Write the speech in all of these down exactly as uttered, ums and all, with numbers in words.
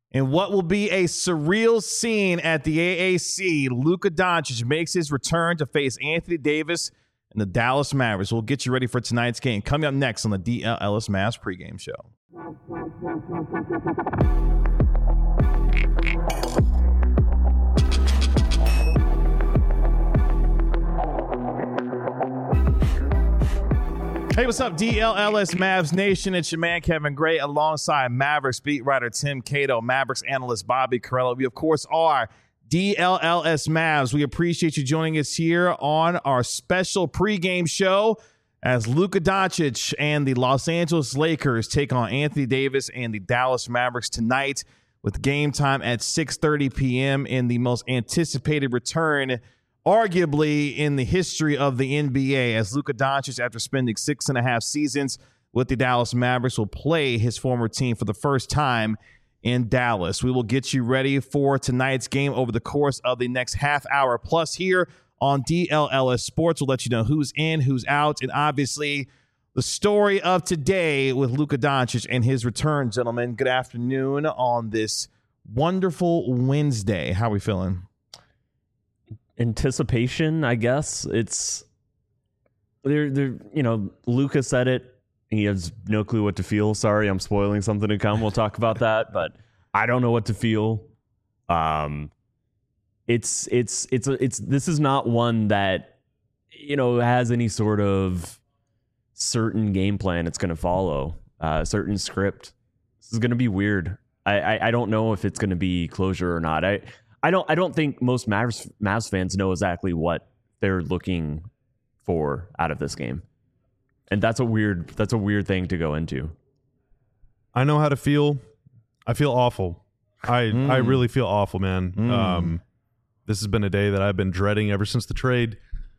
In what will be a surreal scene at the A A C, Luka Doncic makes his return to face Anthony Davis and the Dallas Mavericks. We'll get you ready for tonight's game. Coming up next on the D L Ellis Mavs pregame show. Hey, what's up, D L L S Mavs Nation? It's your man, Kevin Gray, alongside Mavericks beat writer Tim Cato, Mavericks analyst Bobby Carello. We, of course, are D L L S Mavs. We appreciate you joining us here on our special pregame show as Luka Doncic and the Los Angeles Lakers take on Anthony Davis and the Dallas Mavericks tonight with game time at six thirty p.m. in the most anticipated return arguably in the history of the N B A, as Luka Doncic, after spending six and a half seasons with the Dallas Mavericks, will play his former team for the first time in Dallas. We will get you ready for tonight's game over the course of the next half hour plus here on D L L S Sports. We'll let you know who's in, who's out, and obviously the story of today with Luka Doncic and his return. Gentlemen, good afternoon on this wonderful Wednesday. How are we feeling? Anticipation, I guess. It's there. There, you know, Luka said it. He has no clue what to feel. Sorry, I'm spoiling something to come. We'll talk about that, but I don't know what to feel. Um, it's it's it's a, it's this is not one that, you know, has any sort of certain game plan it's going to follow, uh, certain script. This is going to be weird. I, I I don't know if it's going to be closure or not. I. I don't I don't think most Mavs, Mavs fans know exactly what they're looking for out of this game. And that's a weird that's a weird thing to go into. I know how to feel. I feel awful. I mm. I really feel awful, man. Mm. Um, this has been a day that I've been dreading ever since the trade.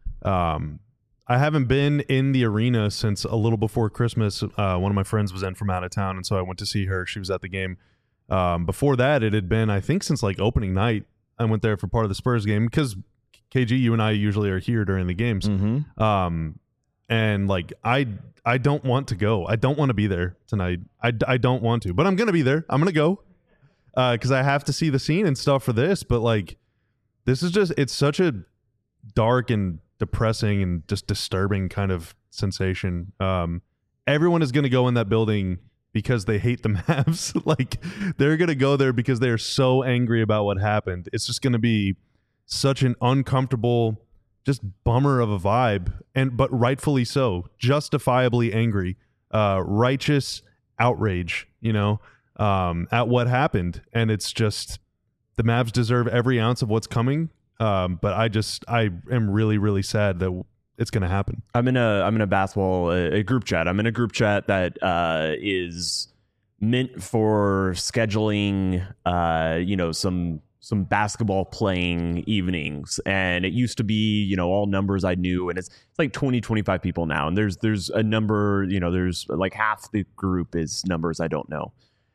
Um, I haven't been in the arena since a little before Christmas. Uh, one of my friends was in from out of town, and so I went to see her. She was at the game. Um, before that, it had been, I think, since like opening night. I went there for part of the Spurs game because K G, you and I usually are here during the games. Mm-hmm. Um, and like, I, I don't want to go. I don't want to be there tonight. I, I don't want to, but I'm going to be there. I'm going to go, uh, cause I have to see the scene and stuff for this, but like, this is just, it's such a dark and depressing and just disturbing kind of sensation. Um, everyone is going to go in that building because they hate the Mavs. Like, they're going to go there because they're so angry about what happened. It's just going to be such an uncomfortable, just bummer of a vibe, and but rightfully so, justifiably angry, uh, righteous outrage, you know, um, at what happened. And it's just, the Mavs deserve every ounce of what's coming. Um, but I just, I am really, really sad that it's going to happen. I'm in a I'm in a basketball a, a group chat. I'm in a group chat that uh, is meant for scheduling, uh, you know, some some basketball playing evenings. And it used to be, you know, all numbers I knew, and it's it's like twenty, twenty-five people now. And there's there's a number, you know, there's like half the group is numbers I don't know.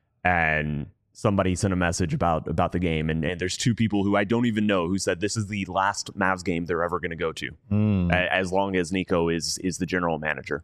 And somebody sent a message about about the game, and, and there's two people who I don't even know who said this is the last Mavs game they're ever going to go to, mm. a, as long as Nico is is the general manager,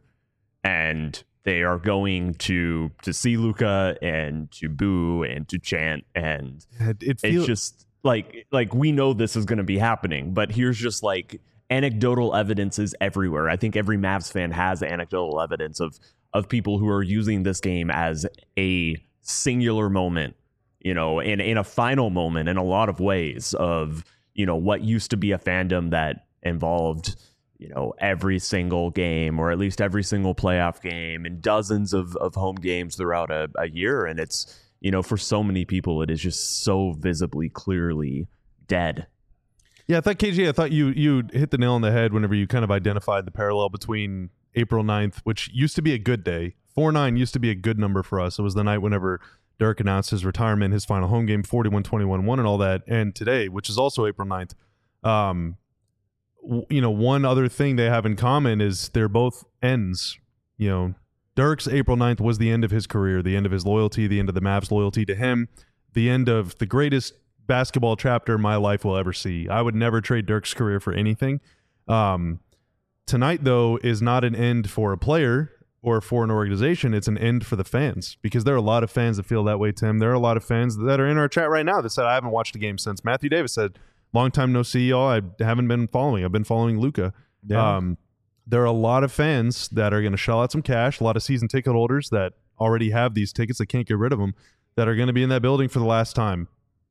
and they are going to to see Luka and to boo and to chant, and it, it feel- it's just like like we know this is going to be happening, but here's just like anecdotal evidence is everywhere. I think every Mavs fan has anecdotal evidence of of people who are using this game as a singular moment, you know, in, in a final moment in a lot of ways of, you know, what used to be a fandom that involved, you know, every single game or at least every single playoff game and dozens of, of home games throughout a, a year. And it's, you know, for so many people, it is just so visibly, clearly dead. Yeah, I thought, K G, I thought you you hit the nail on the head whenever you kind of identified the parallel between April ninth, which used to be a good day. four nine used to be a good number for us. It was the night whenever Dirk announced his retirement, his final home game, forty-one twenty-one one and all that. And today, which is also April ninth, um, w- you know, one other thing they have in common is they're both ends. You know, Dirk's April ninth was the end of his career, the end of his loyalty, the end of the Mavs' loyalty to him, the end of the greatest basketball chapter my life will ever see. I would never trade Dirk's career for anything. Um, tonight, though, is not an end for a player. or for an organization, it's an end for the fans, because there are a lot of fans that feel that way, Tim. There are a lot of fans that are in our chat right now that said, I haven't watched a game since. Matthew Davis said, long time no see, y'all. I haven't been following. I've been following Luka. Yeah. Um, there are a lot of fans that are going to shell out some cash, a lot of season ticket holders that already have these tickets that can't get rid of them, that are going to be in that building for the last time.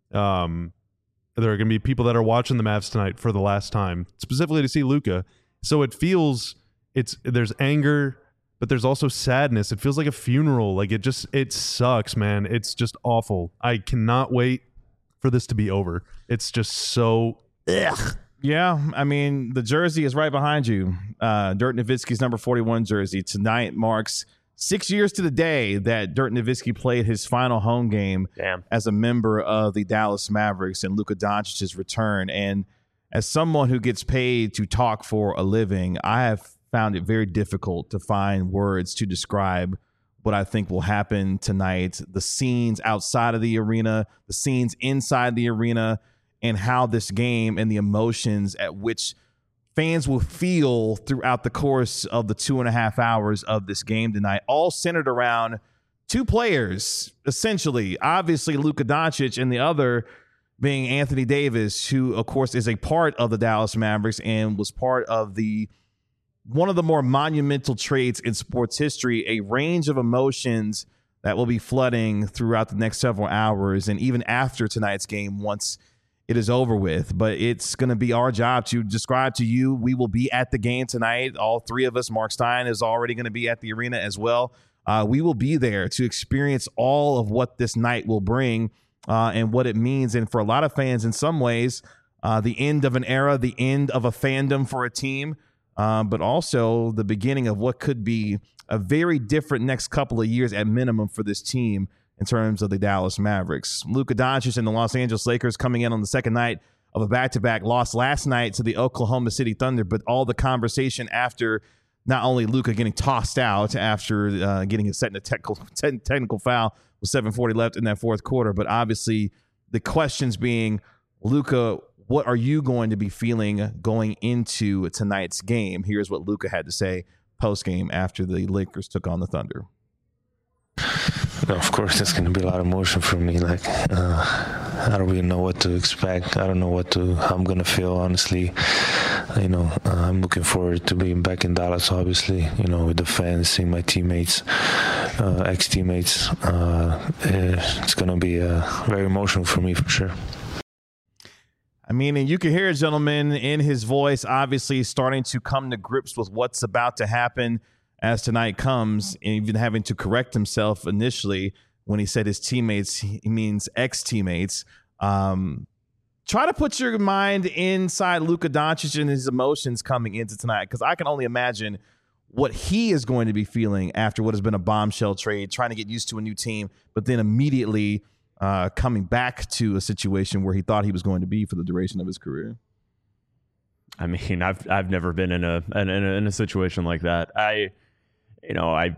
Um, there are going to be people that are watching the Mavs tonight for the last time, specifically to see Luka. So it feels, it's there's anger, but there's also sadness. It feels like a funeral. Like it just, it sucks, man. It's just awful. I cannot wait for this to be over. It's just so, ugh. Yeah, I mean, the jersey is right behind you. Uh, Dirk Nowitzki's number forty-one jersey. Tonight marks six years to the day that Dirk Nowitzki played his final home game Damn. as a member of the Dallas Mavericks and Luka Doncic's return. And as someone who gets paid to talk for a living, I have found it very difficult to find words to describe what I think will happen tonight, the scenes outside of the arena, the scenes inside the arena, and how this game and the emotions at which fans will feel throughout the course of the two and a half hours of this game tonight, all centered around two players, essentially. Obviously, Luka Doncic, and the other being Anthony Davis, who, of course, is a part of the Dallas Mavericks and was part of the one of the more monumental trades in sports history, a range of emotions that will be flooding throughout the next several hours and even after tonight's game once it is over with. But it's going to be our job to describe to you. We will be at the game tonight. All three of us. Mark Stein is already going to be at the arena as well. Uh, we will be there to experience all of what this night will bring uh, and what it means. And for a lot of fans, in some ways, uh, the end of an era, the end of a fandom for a team, uh, but also the beginning of what could be a very different next couple of years at minimum for this team in terms of the Dallas Mavericks. Luka Doncic and the Los Angeles Lakers coming in on the second night of a back-to-back, loss last night to the Oklahoma City Thunder, but all the conversation after not only Luka getting tossed out after uh, getting a set in a technical, te- technical foul with seven forty left in that fourth quarter, but obviously the questions being, Luka, what are you going to be feeling going into tonight's game? Here's what Luka had to say post-game after the Lakers took on the Thunder. No, of course, there's going to be a lot of emotion for me. Like, uh, I don't really know what to expect. I don't know what to, how I'm going to feel, honestly. You know, uh, I'm looking forward to being back in Dallas, obviously, you know, with the fans, seeing my teammates, uh, ex-teammates. Uh, it's going to be uh, very emotional for me, for sure. I mean, and you can hear a gentleman in his voice, obviously starting to come to grips with what's about to happen as tonight comes, and even having to correct himself initially when he said his teammates, he means ex-teammates. Um, try to put your mind inside Luka Doncic and his emotions coming into tonight, because I can only imagine what he is going to be feeling after what has been a bombshell trade, trying to get used to a new team, but then immediately uh, coming back to a situation where he thought he was going to be for the duration of his career. I mean, I've I've never been in a in a, in a situation like that. I, you know, I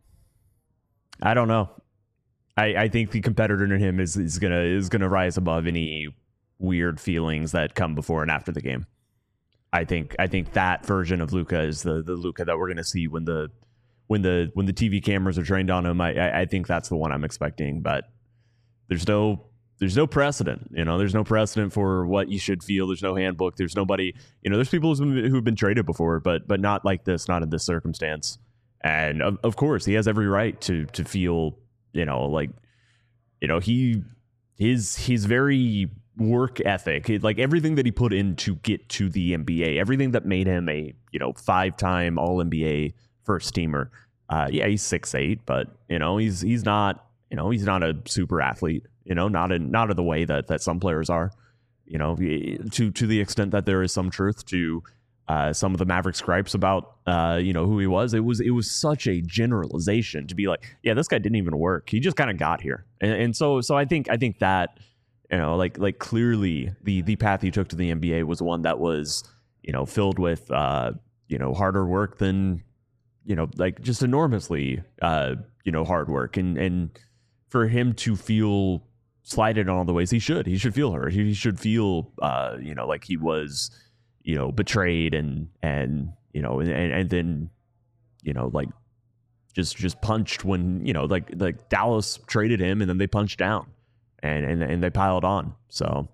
I don't know. I, I think the competitor in him is is gonna is gonna rise above any weird feelings that come before and after the game. I think I think that version of Luka is the the Luka that we're gonna see when the when the when the T V cameras are trained on him. I I think that's the one I'm expecting. But there's no there's no precedent. You know, there's no precedent for what you should feel. There's no handbook. There's nobody. You know, there's people who've been, who've been traded before, but but not like this, not in this circumstance. And of, of course, he has every right to to feel. You know, like, you know, he, his, his very work ethic, like everything that he put in to get to the N B A, everything that made him a, you know, five-time All N B A first teamer. Uh, yeah, he's six eight, but, you know, he's, he's not, you know, he's not a super athlete, you know, not in, not in the way that, that some players are, you know, to, to the extent that there is some truth to, Uh, some of the Mavericks gripes about, uh, you know, who he was. It was it was such a generalization to be like, yeah, this guy didn't even work. He just kind of got here, and, and so so I think I think that, you know, like like clearly the the path he took to the N B A was one that was, you know, filled with uh, you know, harder work than, you know, like just enormously uh, you know, hard work, and and for him to feel slighted in all the ways he should, he should feel hurt. He should feel uh, you know, like he was, you know, betrayed and, and, you know, and, and then, you know, like just just punched when, you know, like like Dallas traded him and then they punched down and and, and they piled on. So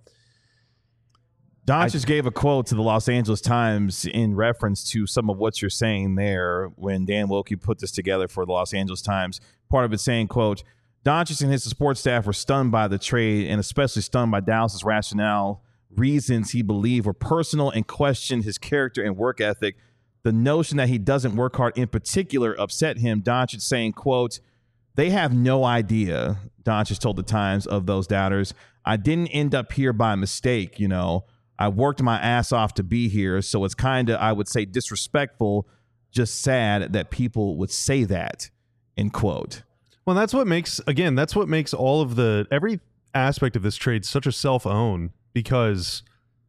Don just gave a quote to the Los Angeles Times in reference to some of what you're saying there when Dan Wilkie put this together for the Los Angeles Times. Part of it saying, quote, Doncic and his support staff were stunned by the trade and especially stunned by Dallas's rationale, reasons he believed were personal and questioned his character and work ethic. The notion that he doesn't work hard in particular upset him. Doncic saying, quote, they have no idea, Doncic told the Times, of those doubters. I didn't end up here by mistake, you know. I worked my ass off to be here, so it's kind of, I would say, disrespectful, just sad that people would say that, end quote. Well, that's what makes, again, that's what makes all of the, every aspect of this trade such a self-own, because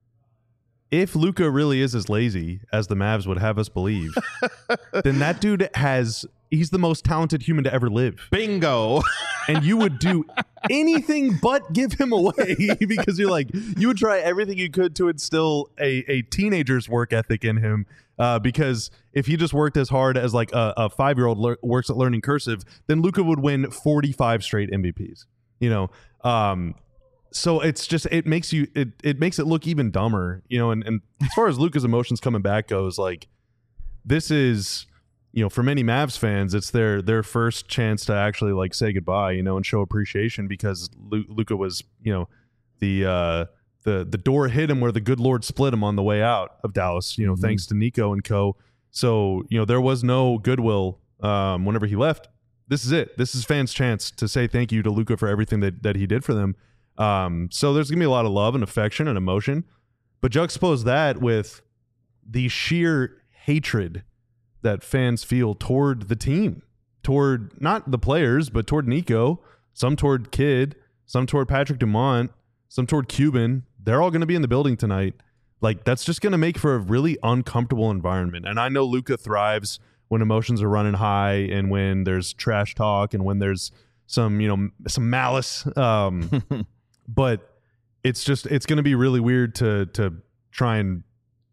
if Luka really is as lazy as the Mavs would have us believe, then that dude has, he's the most talented human to ever live. Bingo. And you would do anything but give him away because you're like, you would try everything you could to instill a, a teenager's work ethic in him. Uh, because if he just worked as hard as like a, a five-year-old le- works at learning cursive, then Luka would win forty-five straight M V Ps, you know? Um, so it's just, it makes you, it, it makes it look even dumber, you know? And, and as far as Luka's emotions coming back goes, like, this is, you know, for many Mavs fans, it's their their first chance to actually like say goodbye, you know, and show appreciation because Lu- Luka was, you know, the uh, the the door hit him where the good Lord split him on the way out of Dallas, you know, mm-hmm. thanks to Nico and co. So, you know, there was no goodwill um, whenever he left. This is it. This is fans' chance to say thank you to Luka for everything that that he did for them. Um, so there's gonna be a lot of love and affection and emotion, but juxtapose that with the sheer hatred that fans feel toward the team, toward not the players, but toward Nico, some toward Kidd, some toward Patrick Dumont, some toward Cuban. They're all going to be in the building tonight. Like, that's just going to make for a really uncomfortable environment. And I know Luka thrives when emotions are running high and when there's trash talk and when there's some, you know, some malice. Um, but it's just, it's going to be really weird to, to try and,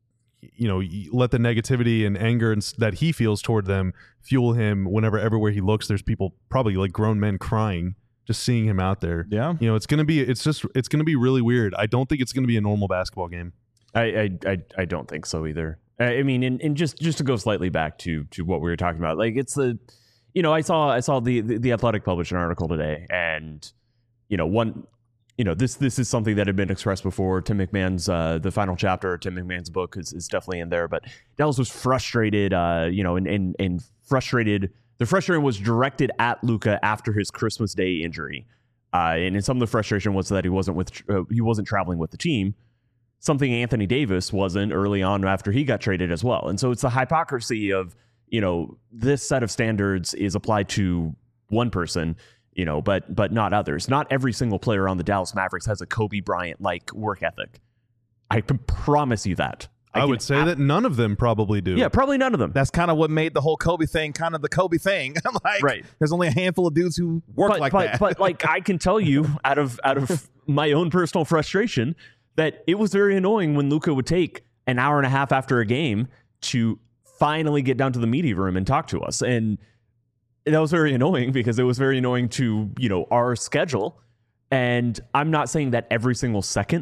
you know, let the negativity and anger and that he feels toward them fuel him whenever everywhere he looks there's people, probably like grown men, crying just seeing him out there. Yeah, you know, it's gonna be it's just it's gonna be really weird. I don't think it's gonna be a normal basketball game. I I I, I don't think so either. I mean, and, and just just to go slightly back to to what we were talking about, like it's the, you know, I saw I saw the the, the Athletic published an article today, and you know one. You know, this this is something that had been expressed before. Tim McMahon's uh, the final chapter of Tim McMahon's book is, is definitely in there. But Dallas was frustrated, uh, you know, and, and and frustrated. The frustration was directed at Luka after his Christmas Day injury, uh, and, and some of the frustration was that he wasn't with uh, he wasn't traveling with the team. Something Anthony Davis wasn't early on after he got traded as well. And so it's the hypocrisy of, you know, this set of standards is applied to one person, you know, but but not others. Not every single player on the Dallas Mavericks has a Kobe Bryant-like work ethic. I can promise you that. I, I would say ab- that none of them probably do. Yeah, probably none of them. That's kind of what made the whole Kobe thing kind of the Kobe thing. Like, right. There's only a handful of dudes who work but, like but, that. But like I can tell you out of out of my own personal frustration that it was very annoying when Luka would take an hour and a half after a game to finally get down to the media room and talk to us. And that was very annoying because it was very annoying to, you know, our schedule. And I'm not saying that every single second,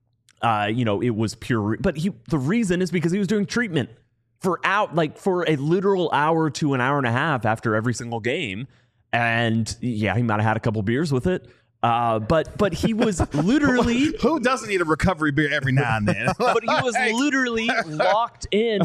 uh, you know, it was pure, but he, the reason is because he was doing treatment for out, like for a literal hour to an hour and a half after every single game. And yeah, he might have had a couple beers with it. Uh, but, but he was literally, who doesn't need a recovery beer every now and then? But he was literally locked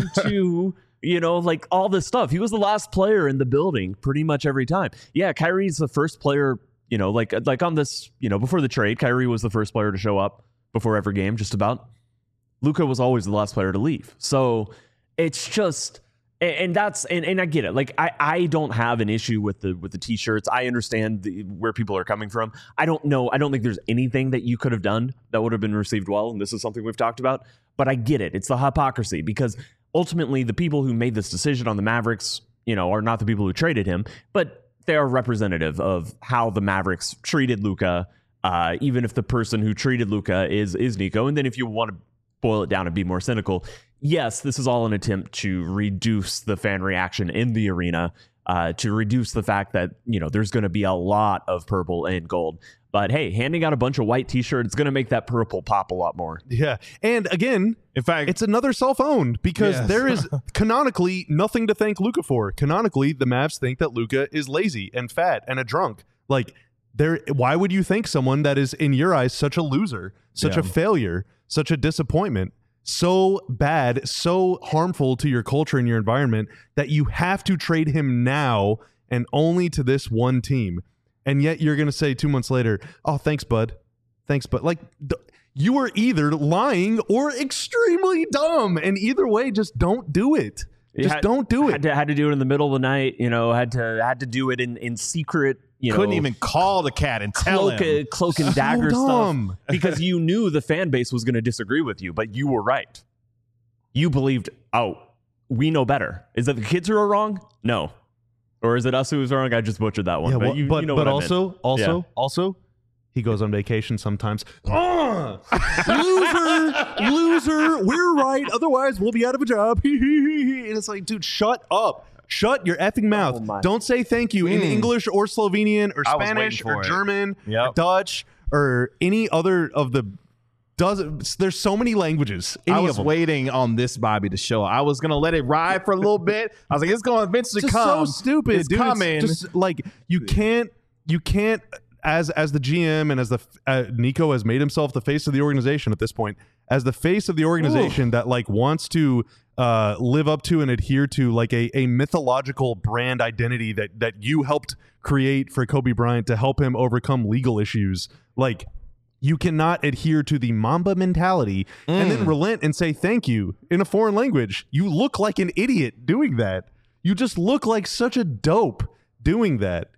into, you know, like all this stuff. He was the last player in the building pretty much every time. Yeah, Kyrie's the first player, you know, like like on this, you know, before the trade, Kyrie was the first player to show up before every game, just about. Luka was always the last player to leave. So it's just, and, and that's, and, and I get it. Like, I, I don't have an issue with the with the T-shirts. I understand the, where people are coming from. I don't know. I don't think there's anything that you could have done that would have been received well. And this is something we've talked about. But I get it. It's the hypocrisy because ultimately, the people who made this decision on the Mavericks, you know, are not the people who traded him, but they are representative of how the Mavericks treated Luka, uh, even if the person who treated Luka is is Nico. And then if you want to boil it down and be more cynical, yes, this is all an attempt to reduce the fan reaction in the arena. uh, to reduce the fact that, you know, there's going to be a lot of purple and gold. But hey, handing out a bunch of white t-shirts is going to make that purple pop a lot more. Yeah. And again, In fact, it's another self-owned because Yes. there is canonically nothing to thank Luka for. Canonically, the Mavs think that Luka is lazy and fat and a drunk. Like, there, why would you think someone that is, in your eyes, such a loser, such Yeah. a failure, such a disappointment, so bad, so harmful to your culture and your environment that you have to trade him now and only to this one team? And yet you're going to say two months later, oh, thanks, bud. Thanks, bud. Like, d- you are either lying or extremely dumb. And either way, just don't do it. You Just had- don't do it. Had to, had to do it in the middle of the night, you know, had to had to do it in, in secret, you couldn't know. even call the cat and tell Cloak, him. uh, cloak and dagger dumb. stuff because you knew the fan base was going to disagree with you, but you were right. You believed, oh, we know better. Is that the kids who are wrong? No. Or is it us who was wrong? I just butchered that one. Yeah, but well, you, but, you know but what I also, meant. also, Yeah. also, he goes on vacation sometimes. Oh, loser, loser. We're right. Otherwise, we'll be out of a job. And it's like, dude, shut up. Shut your effing mouth. Oh my. Don't say thank you in Mm. English or Slovenian or I was Spanish waiting or for it. German Yep. or Dutch or any other of the dozen. There's so many languages. Any I of was them. waiting on this Bobby to show. I was gonna let it ride for a little bit. I was like, it's gonna eventually Just come. so stupid, It's dude. coming. It's just like you can't, you can't, as as the G M and as the uh, Nico has made himself the face of the organization at this point, as the face of the organization that like wants to uh, live up to and adhere to like a a mythological brand identity that that you helped create for Kobe Bryant to help him overcome legal issues, like. You cannot adhere to the Mamba mentality and then relent and say thank you in a foreign language. You look like an idiot doing that. You just look like such a dope doing that.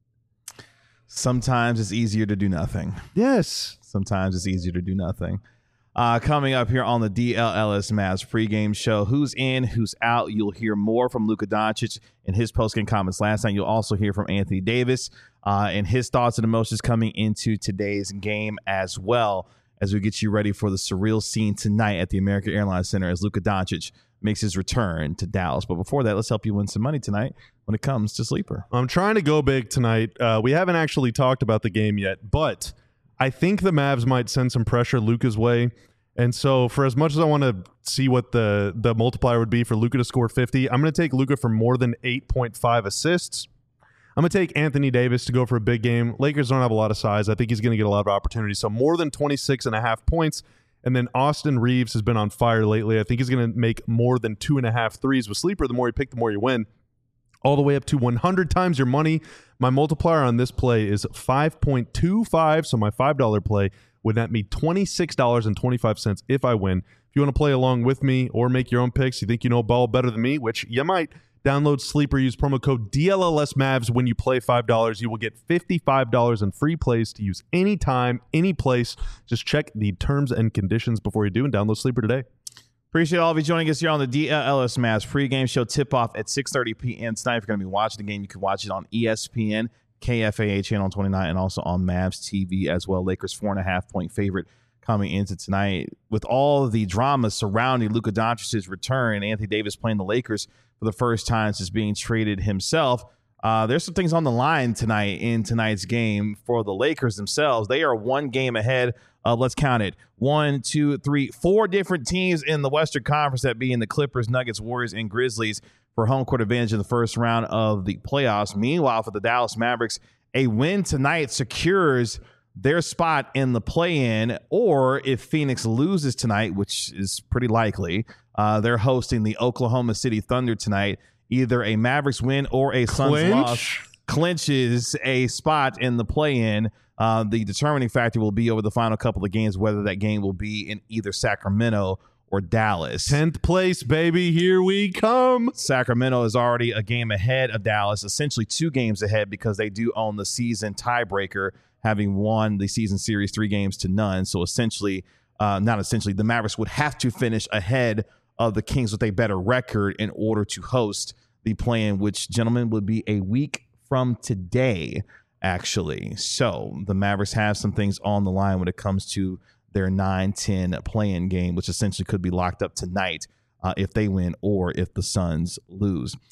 Sometimes it's easier to do nothing. Yes. Sometimes it's easier to do nothing. Uh, coming up here on the D L L S Mavs pregame show, who's in, who's out. You'll hear more from Luka Doncic in his postgame comments last night. You'll also hear from Anthony Davis uh, and his thoughts and emotions coming into today's game as well, as we get you ready for the surreal scene tonight at the American Airlines Center as Luka Doncic makes his return to Dallas. But before that, let's help you win some money tonight when it comes to Sleeper. I'm trying to go big tonight. Uh, we haven't actually talked about the game yet, but I think the Mavs might send some pressure Luka's way. And so for as much as I want to see what the, the multiplier would be for Luka to score fifty, I'm going to take Luka for more than eight point five assists. I'm going to take Anthony Davis to go for a big game. Lakers don't have a lot of size. I think he's going to get a lot of opportunities. So more than twenty-six and a half points. And then Austin Reeves has been on fire lately. I think he's going to make more than two and a half threes with Sleeper. The more you pick, the more you win. All the way up to one hundred times your money. My multiplier on this play is five point two five. So my five dollar play would net me twenty-six dollars and twenty-five cents if I win. If you want to play along with me or make your own picks, you think you know ball better than me, which you might, download Sleeper, use promo code D L L S Mavs when you play five dollars. You will get fifty-five dollars in free plays to use anytime, any place. Just check the terms and conditions before you do and download Sleeper today. Appreciate all of you joining us here on the D L L S Mavs pregame show. Tip-off at six thirty p.m. tonight. If you're going to be watching the game, you can watch it on E S P N, K F A A Channel twenty-nine, and also on Mavs T V as well. Lakers four and a half point favorite coming into tonight. With all the drama surrounding Luka Doncic's return, Anthony Davis playing the Lakers for the first time since being traded himself, uh, there's some things on the line tonight in tonight's game for the Lakers themselves. They are one game ahead of, let's count it, one, two, three, four different teams in the Western Conference, that being the Clippers, Nuggets, Warriors, and Grizzlies, for home court advantage in the first round of the playoffs. Meanwhile, for the Dallas Mavericks, a win tonight secures their spot in the play-in, or if Phoenix loses tonight, which is pretty likely, uh, they're hosting the Oklahoma City Thunder tonight. Either a Mavericks win or a Suns Clinch. loss clinches a spot in the play-in. Uh, the determining factor will be over the final couple of games, whether that game will be in either Sacramento or Dallas. tenth place, baby. Here we come. Sacramento is already a game ahead of Dallas, essentially two games ahead, because they do own the season tiebreaker, having won the season series three games to none. So essentially, uh, not essentially, the Mavericks would have to finish ahead of the Kings with a better record in order to host the play-in, which, gentlemen, would be a week from today, actually. So the Mavericks have some things on the line when it comes to their nine ten play-in game, which essentially could be locked up tonight uh, if they win or if the Suns lose.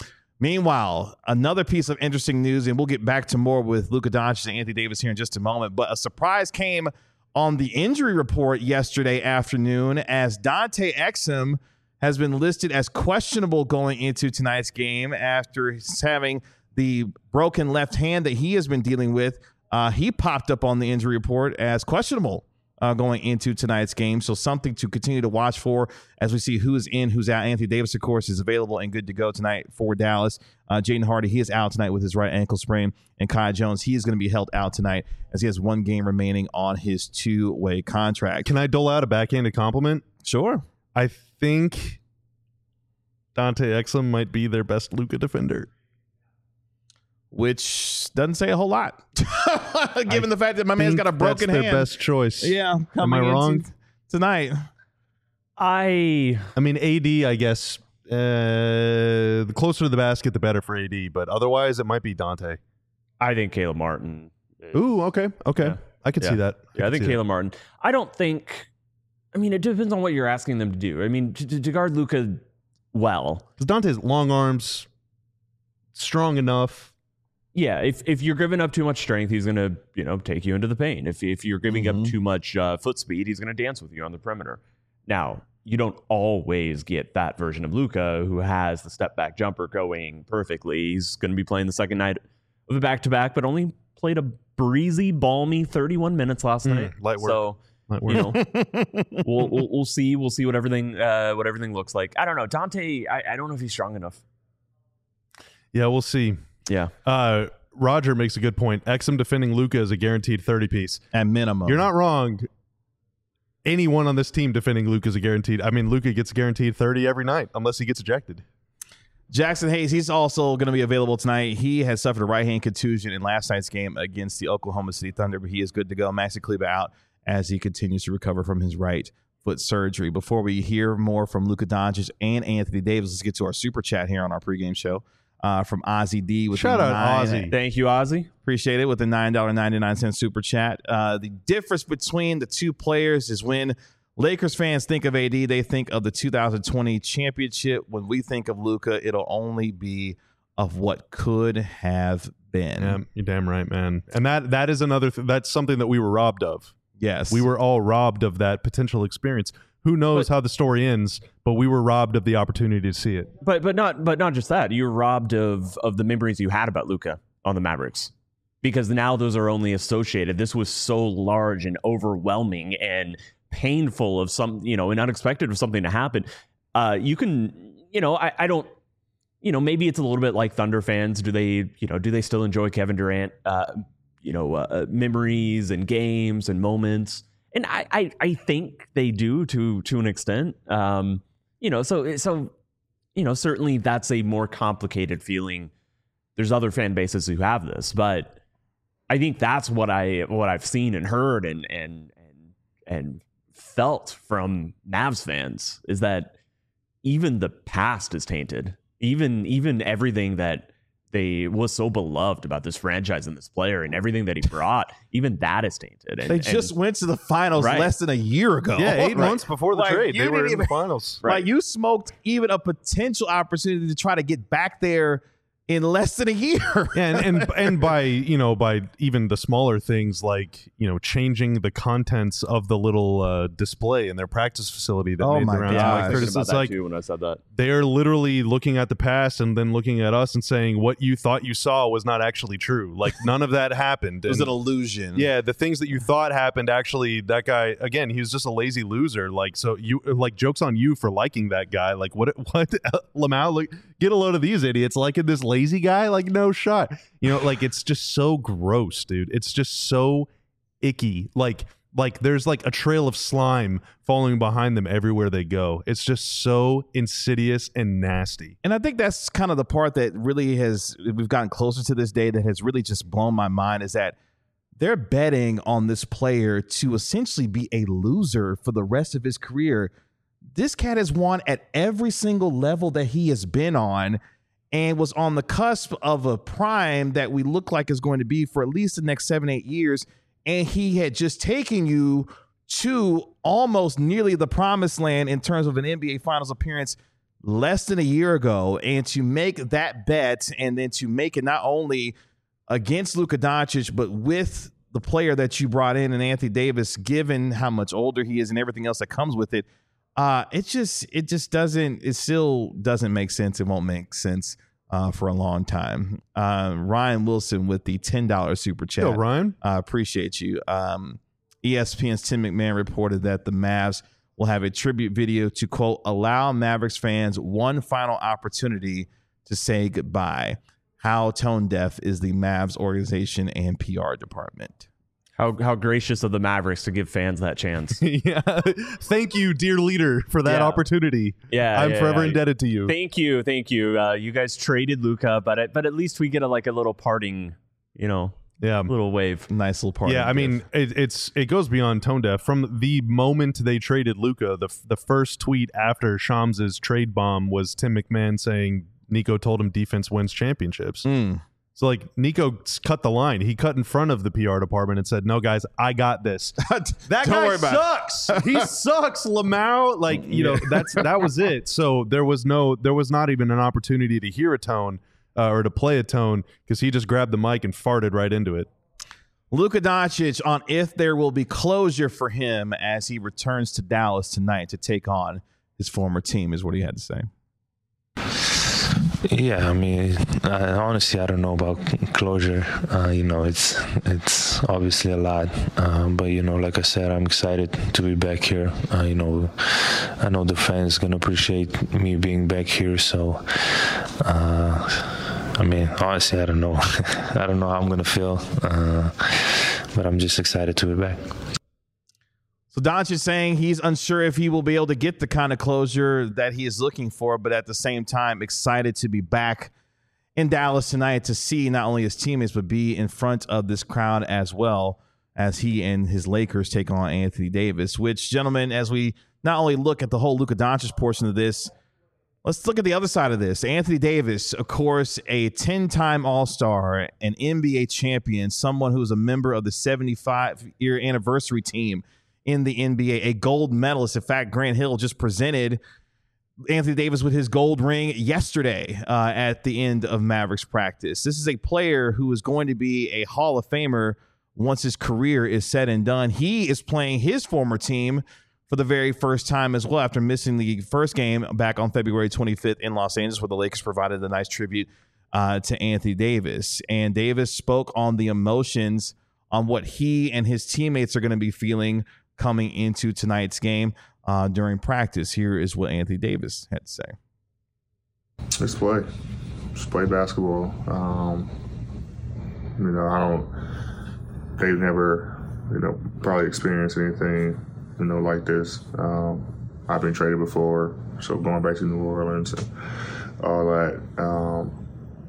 Meanwhile, another piece of interesting news, and we'll get back to more with Luka Doncic and Anthony Davis here in just a moment, but a surprise came on the injury report yesterday afternoon as Dante Exum has been listed as questionable going into tonight's game after having the broken left hand that he has been dealing with. Uh, he popped up on the injury report as questionable uh, going into tonight's game. So something to continue to watch for as we see who's in, who's out. Anthony Davis, of course, is available and good to go tonight for Dallas. Uh, Jaden Hardy, he is out tonight with his right ankle sprain. And Kai Jones, he is going to be held out tonight as he has one game remaining on his two-way contract. Can I dole out a backhanded compliment? Sure. I think Dante Exum might be their best Luka defender. Which doesn't say a whole lot, given I the fact that my man's got a broken that's hand. their best choice. Yeah. Am I wrong? Tonight. I I mean, A D, I guess, uh, the closer to the basket, the better for A D. But otherwise, it might be Dante. I think Caleb Martin. Ooh, okay. Okay. Yeah. I could Yeah. see that. Yeah, I could think see Caleb Martin. I don't think. I mean, it depends on what you're asking them to do. I mean, to, to guard Luka well. Because Dante's long arms, strong enough. Yeah, if if you're giving up too much strength, he's gonna you know take you into the paint. If if you're giving Mm-hmm. up too much uh, foot speed, he's gonna dance with you on the perimeter. Now, you don't always get that version of Luka who has the step back jumper going perfectly. He's gonna be playing the second night of a back to back, but only played a breezy, balmy thirty-one minutes last Mm, night. light work. So Light you work. know, we'll, we'll we'll see we'll see what everything uh, what everything looks like. I don't know, Dante. I, I don't know if he's strong enough. Yeah, we'll see. Yeah. Uh, Roger makes a good point. Exum defending Luka is a guaranteed thirty piece. At minimum. You're not wrong. Anyone on this team defending Luka is a guaranteed. I mean, Luka gets guaranteed thirty every night unless he gets ejected. Jackson Hayes, he's also going to be available tonight. He has suffered a right hand contusion in last night's game against the Oklahoma City Thunder, but he is good to go. Maxi Kleber out as he continues to recover from his right foot surgery. Before we hear more from Luka Doncic and Anthony Davis, let's get to our super chat here on our pregame show. Uh, from Ozzy D with Shout the out nine, Ozzy. Thank you, Ozzy. Appreciate it with the nine dollars and ninety-nine cents super chat. Uh, the difference between the two players is when Lakers fans think of A D, they think of the two thousand twenty championship. When we think of Luka, it'll only be of what could have been. Yeah, you're damn right, man. And that that is another. Th- that's something that we were robbed of. Yes, We were all robbed of that potential experience. Who knows But- how the story ends? But we were robbed of the opportunity to see it. But but not but not just that. You're robbed of of the memories you had about Luka on the Mavericks, because now those are only associated. This was so large and overwhelming and painful of some you know and unexpected of something to happen. Uh, you can you know I, I don't you know maybe it's a little bit like Thunder fans. Do they you know do they still enjoy Kevin Durant uh, you know uh, memories and games and moments? And I, I, I think they do to to an extent. Um, you know, so so you know, certainly that's a more complicated feeling. There's other fan bases who have this, but I think that's what I what I've seen and heard and and and and felt from Mavs fans is that even the past is tainted. Even even everything that they was so beloved about this franchise and this player and everything that he brought, even that is tainted. And, they just and, went to the finals Right. less than a year ago. Yeah, eight Right. months before the Like, trade, you they were didn't in the even- finals. Like you smoked even a potential opportunity to try to get back there in less than a year. Yeah, and, and and by you know by even the smaller things like you know changing the contents of the little uh, display in their practice facility that Oh made my the rounds. gosh. of I Mike was Curtis. thinking about It's that like too when I said that. they're literally looking at the past and then looking at us and saying what you thought you saw was not actually true. Like none of that happened. It was And- an illusion. yeah, the things that you thought happened actually. That guy again, he was just a lazy loser. Like so, you like jokes on you for liking that guy. Like what? What? Lamau, like get a load of these idiots liking this lazy guy. Like no shot. You know, like it's just so gross, dude. It's just so icky. Like like there's like a trail of slime following behind them everywhere they go. It's just so insidious and nasty. And I think that's kind of the part that really has, we've gotten closer to this day that has really just blown my mind is that they're betting on this player to essentially be a loser for the rest of his career. This cat has won at every single level that he has been on and was on the cusp of a prime that we look like is going to be for at least the next seven, eight years. And he had just taken you to almost nearly the promised land in terms of an N B A Finals appearance less than a year ago, and to make that bet and then to make it not only against Luka Doncic, but with the player that you brought in, and Anthony Davis, given how much older he is and everything else that comes with it, uh, it just it just doesn't it still doesn't make sense. It won't make sense uh, for a long time. Uh, Ryan Wilson with the ten dollars super chat. Yo, Ryan, uh, appreciate you. Um, E S P N's Tim McMahon reported that the Mavs will have a tribute video to, quote, allow Mavericks fans one final opportunity to say goodbye. How tone deaf is the Mavs organization and P R department? How how gracious of the Mavericks to give fans that chance. yeah, thank you, dear leader, for that Yeah. opportunity. Yeah, I'm yeah, forever yeah. indebted to you. Thank you, thank you. Uh, you guys traded Luka, but at, but at least we get a, like a little parting, you know, Yeah, little wave. Nice little part. yeah. I mean, it, it's it goes beyond tone deaf. From the moment they traded Luka, the the first tweet after Shams's trade bomb was Tim McMahon saying Nico told him defense wins championships. Mm. So like Nico cut the line. He cut in front of the P R department and said, "No, guys, I got this." That Don't guy worry about sucks. He sucks, Lamau. Like you know, that's that was it. So there was no, there was not even an opportunity to hear a tone uh, or to play a tone because he just grabbed the mic and farted right into it. Luka Doncic on if there will be closure for him as he returns to Dallas tonight to take on his former team is what he had to say. Yeah, I mean, I, honestly, I don't know about closure. Uh, you know, it's it's obviously a lot, uh, but you know, like I said, I'm excited to be back here. Uh, you know, I know the fans gonna appreciate me being back here. So, uh, I mean, honestly, I don't know. I don't know how I'm gonna feel, uh, but I'm just excited to be back. So Doncic is saying he's unsure if he will be able to get the kind of closure that he is looking for, but at the same time, excited to be back in Dallas tonight to see not only his teammates, but be in front of this crowd as well as he and his Lakers take on Anthony Davis, which, gentlemen, as we not only look at the whole Luka Doncic portion of this, let's look at the other side of this. Anthony Davis, of course, a ten-time All-Star, an N B A champion, someone who is a member of the seventy-five-year anniversary team in the N B A, a gold medalist. In fact, Grant Hill just presented Anthony Davis with his gold ring yesterday uh, at the end of Mavericks practice. This is a player who is going to be a Hall of Famer once his career is said and done. He is playing his former team for the very first time as well after missing the first game back on February twenty-fifth in Los Angeles, where the Lakers provided a nice tribute uh, to Anthony Davis. And Davis spoke on the emotions on what he and his teammates are going to be feeling coming into tonight's game uh, during practice. Here is what Anthony Davis had to say. Let's play. Just play basketball. Um, you know, I don't, they've never, you know, probably experienced anything, you know, like this. Um, I've been traded before, so going back to New Orleans and all that, um,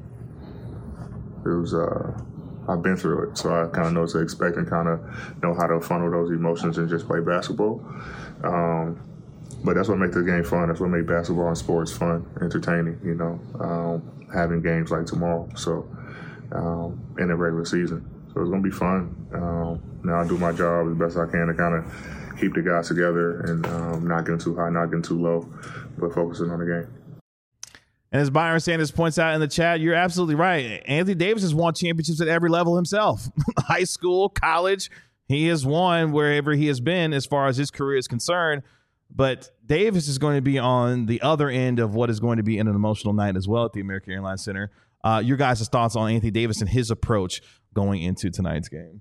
it was, uh, I've been through it, so I kind of know what to expect and kind of know how to funnel those emotions and just play basketball. Um, but that's what makes the game fun. That's what makes basketball and sports fun, entertaining, you know, um, having games like tomorrow, so um, in the regular season. So it's going to be fun. Um, now I do my job as best I can to kind of keep the guys together and um, not getting too high, not getting too low, but focusing on the game. And as Byron Sanders points out in the chat, you're absolutely right. Anthony Davis has won championships at every level himself. High school, college, he has won wherever he has been as far as his career is concerned. But Davis is going to be on the other end of what is going to be an emotional night as well at the American Airlines Center. Uh, your guys' thoughts on Anthony Davis and his approach going into tonight's game?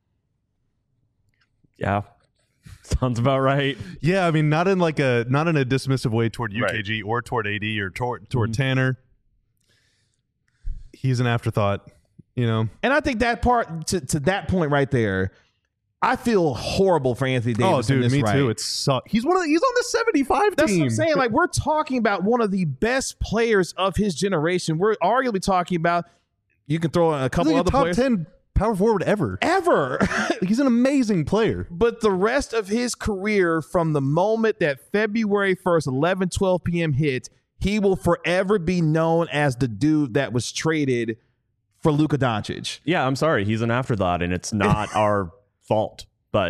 Yeah. Sounds about right. Yeah, I mean, not in like a not in a dismissive way toward U K G right. or toward A D or toward toward mm-hmm. Tanner. He's an afterthought, you know. And I think that part to, to that point right there, I feel horrible for Anthony Davis. Oh, dude, in this me right. too. It's su- he's one of the, he's on the seventy-five That's team. That's what I'm saying. Like, we're talking about one of the best players of his generation. We're arguably talking about, you can throw in a couple like other a top players. ten power forward ever. Ever. He's an amazing player. But the rest of his career, from the moment that February first, eleven twelve p.m. hit, he will forever be known as the dude that was traded for Luka Doncic. Yeah, I'm sorry. He's an afterthought, and it's not our fault. But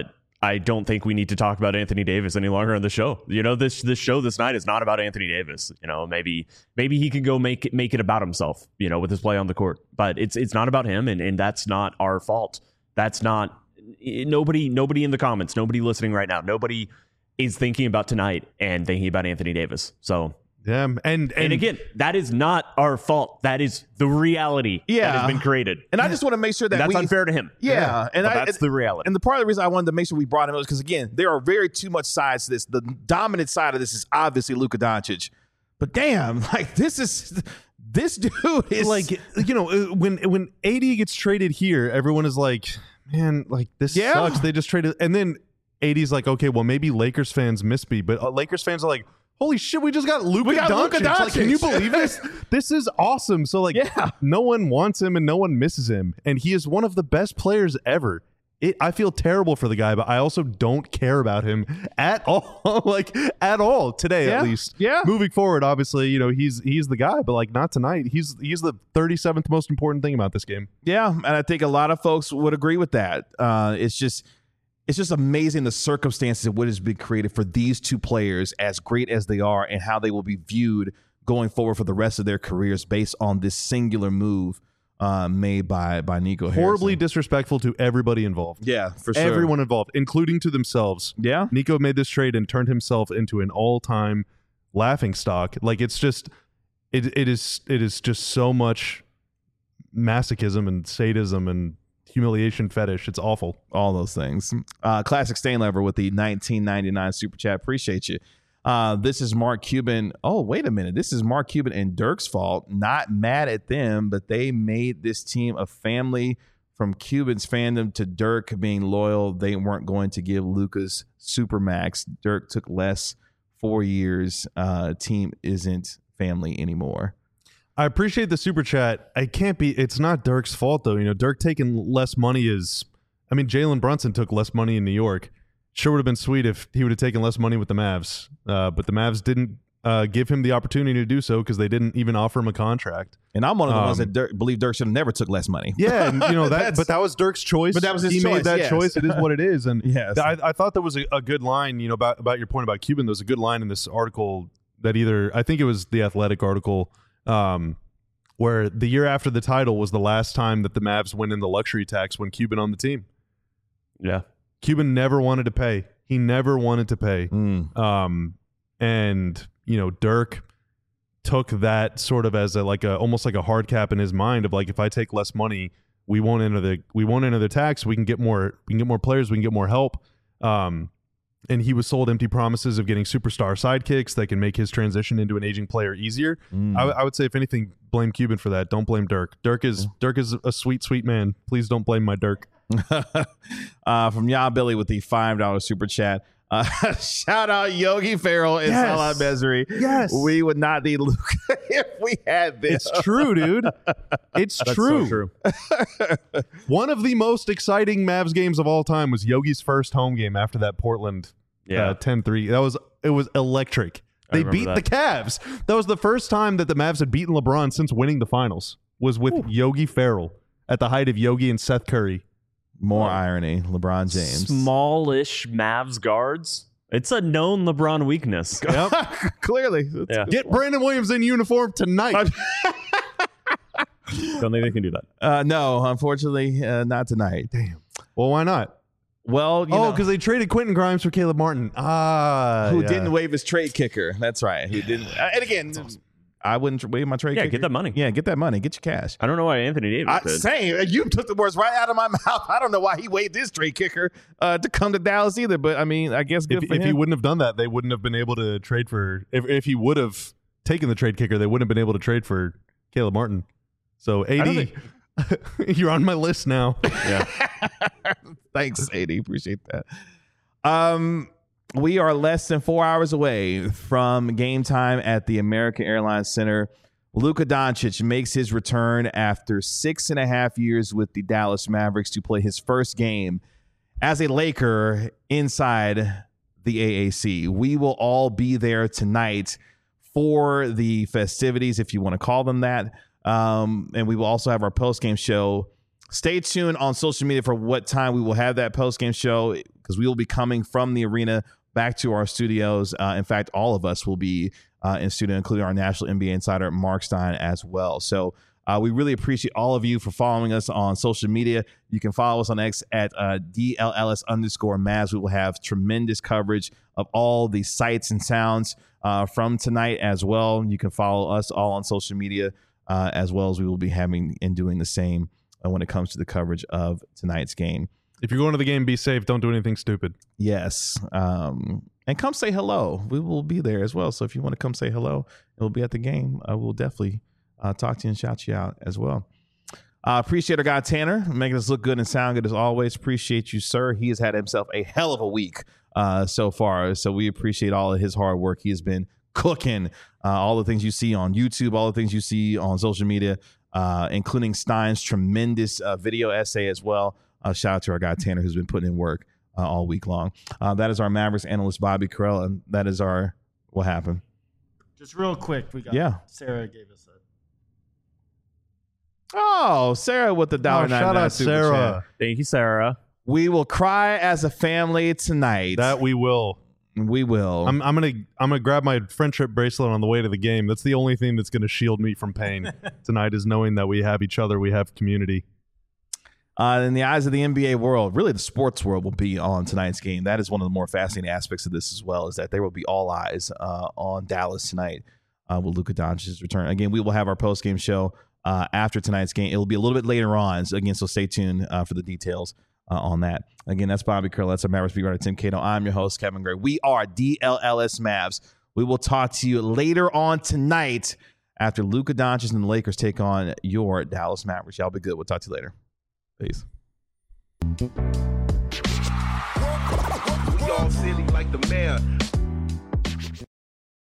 I don't think we need to talk about Anthony Davis any longer on the show. You know, this this show this night is not about Anthony Davis. You know, maybe maybe he can go make it make it about himself, you know, with his play on the court. But it's it's not about him, and, and that's not our fault. That's not nobody nobody in the comments, nobody listening right now, nobody is thinking about tonight and thinking about Anthony Davis. So yeah, and, and and again, that is not our fault. That is the reality Yeah. that has been created. And I just want to make sure that And that's we, unfair to him. Yeah, and But I, that's the reality. And the part of the reason I wanted to make sure we brought him up is because again, there are very too much sides to this. The dominant side of this is obviously Luka Doncic, but damn, like this is this dude is like, you know, uh, when when A D gets traded here, everyone is like, man, like this Yeah. sucks. They just traded, and then A D's like, okay, well maybe Lakers fans miss me, but uh, Lakers fans are like, holy shit, we just got Luka We got Doncic. Luka Like, can you Doncic. believe this? This is awesome. So like, Yeah. no one wants him and no one misses him, and he is one of the best players ever. It, I feel terrible for the guy, but I also don't care about him at all, like at all today, Yeah. at least. Yeah. Moving forward, obviously, you know he's he's the guy, but like not tonight. He's he's the thirty-seventh most important thing about this game. Yeah, and I think a lot of folks would agree with that. Uh, it's just it's just amazing the circumstances of what has been created for these two players, as great as they are, and how they will be viewed going forward for the rest of their careers based on this singular move uh, made by by Nico Horribly Harrison. disrespectful to everybody involved. Yeah, for sure. Everyone involved, including to themselves. Yeah. Nico made this trade and turned himself into an all-time laughing stock. Like it's just it it is it is just so much masochism and sadism and humiliation fetish. It's awful. All those things. Uh, Classic Stain Lever with the nineteen ninety-nine super chat. Appreciate you. Uh, this is Mark Cuban. Oh, wait a minute. This is Mark Cuban and Dirk's fault. Not mad at them, but they made this team a family. From Cuban's fandom to Dirk being loyal, they weren't going to give Luka's supermax. Dirk took less, four years. Uh, team isn't family anymore. I appreciate the super chat. I can't be. It's not Dirk's fault though. You know, Dirk taking less money is. I mean, Jalen Brunson took less money in New York. Sure would have been sweet if he would have taken less money with the Mavs, uh, but the Mavs didn't uh, give him the opportunity to do so because they didn't even offer him a contract. And I'm one of the Um, ones that Dirk, believe Dirk should have never took less money. Yeah, and you know that, That's- but that was Dirk's choice. But that was his he choice, made that yes. choice. It is what it is. And Yes. I, I thought there was a, a good line, you know, about about your point about Cuban. There was a good line in this article that either I think it was the Athletic article, um, where the year after the title was the last time that the Mavs went in the luxury tax when Cuban on the team. Yeah. Cuban never wanted to pay. He never wanted to pay. Mm. Um, and you know, Dirk took that sort of as a like a almost like a hard cap in his mind of like, if I take less money, we won't enter the we won't enter the tax. We can get more. We can get more players. We can get more help. Um, and he was sold empty promises of getting superstar sidekicks that can make his transition into an aging player easier. Mm. I, I would say, if anything, blame Cuban for that. Don't blame Dirk. Dirk is Dirk is a sweet, sweet man. Please don't blame my Dirk. uh, from Ya Billy with the five dollar super chat. Uh, shout out Yogi Ferrell and Yes. Salah Mesri. Yes. We would not need Luka if we had this. It's true, dude. It's true. So true. One of the most exciting Mavs games of all time was Yogi's first home game after that Portland Yeah. uh, ten three. That was it was electric. They remember beat that. the Cavs. That was the first time that the Mavs had beaten LeBron since winning the finals. Was with Yogi Ferrell at the height of Yogi and Seth Curry. More irony. LeBron James. Smallish Mavs guards. It's a known LeBron weakness. Yep. Clearly. Yeah. Get Brandon Williams in uniform tonight. Don't think they can do that. Uh, no, unfortunately, uh, not tonight. Damn. Well, why not? Well, you Oh, know, because they traded Quentin Grimes for Caleb Martin. Ah, who yeah. didn't waive his trade kicker. That's right. Who didn't. Uh, and again, I wouldn't tr- waive my trade Yeah, kicker. get that money. Yeah, get that money. Get your cash. I don't know why Anthony Davis I, did. same. You took the words right out of my mouth. I don't know why he waived his trade kicker uh, to come to Dallas either. But I mean, I guess good If, for if him. he wouldn't have done that, they wouldn't have been able to trade for. If if he would have taken the trade kicker, they wouldn't have been able to trade for Caleb Martin. So A D, you're on my list now. Yeah. Thanks, A D. Appreciate that. Um, we are less than four hours away from game time at the American Airlines Center. Luka Doncic makes his return after six and a half years with the Dallas Mavericks to play his first game as a Laker inside the A A C. We will all be there tonight for the festivities, if you want to call them that. Um, and we will also have our post-game show stay tuned on social media for what time we will have that post-game show, because we will be coming from the arena back to our studios. Uh, in fact, all of us will be uh, in studio, including our national N B A insider, Mark Stein, as well. So uh, we really appreciate all of you for following us on social media. You can follow us on X at uh, D L L S underscore Mavs. We will have tremendous coverage of all the sights and sounds uh, from tonight as well. You can follow us all on social media uh, as well, as we will be having and doing the same uh, when it comes to the coverage of tonight's game. If you're going to the game, be safe. Don't do anything stupid. Yes. Um, and come say hello. We will be there as well. So if you want to come say hello, it'll be at the game. I will definitely uh, talk to you and shout you out as well. Uh, appreciate our guy Tanner making us look good and sound good as always. Appreciate you, sir. He has had himself a hell of a week uh, so far. So we appreciate all of his hard work. He has been cooking uh, all the things you see on YouTube, all the things you see on social media, uh, including Stein's tremendous uh, video essay as well. Uh, shout out to our guy Tanner, who's been putting in work uh, all week long. Uh, that is our Mavericks analyst, Bobby Carell, and that is our what happened. Just real quick, we got yeah. Sarah gave us that. Oh, Sarah with the dollar Oh, ninety shout nine out super Sarah. chat. Thank you, Sarah. We will cry as a family tonight. That we will. we will. I'm, I'm gonna I'm gonna grab my friendship bracelet on the way to the game. That's the only thing that's gonna shield me from pain tonight, is knowing that we have each other, we have community. Uh, in the eyes of the N B A world, really the sports world will be on tonight's game. That is one of the more fascinating aspects of this as well, is that there will be all eyes uh, on Dallas tonight uh, with Luka Doncic's return. Again, we will have our post-game show uh, after tonight's game. It will be a little bit later on. So again, so stay tuned uh, for the details uh, on that. Again, that's Bobby Curl. That's our Mavericks beat writer, Tim Cato. I'm your host, Kevin Gray. We are D L L S Mavs. We will talk to you later on tonight after Luka Doncic and the Lakers take on your Dallas Mavericks. Y'all be good. We'll talk to you later. Peace. We all silly like the mayor.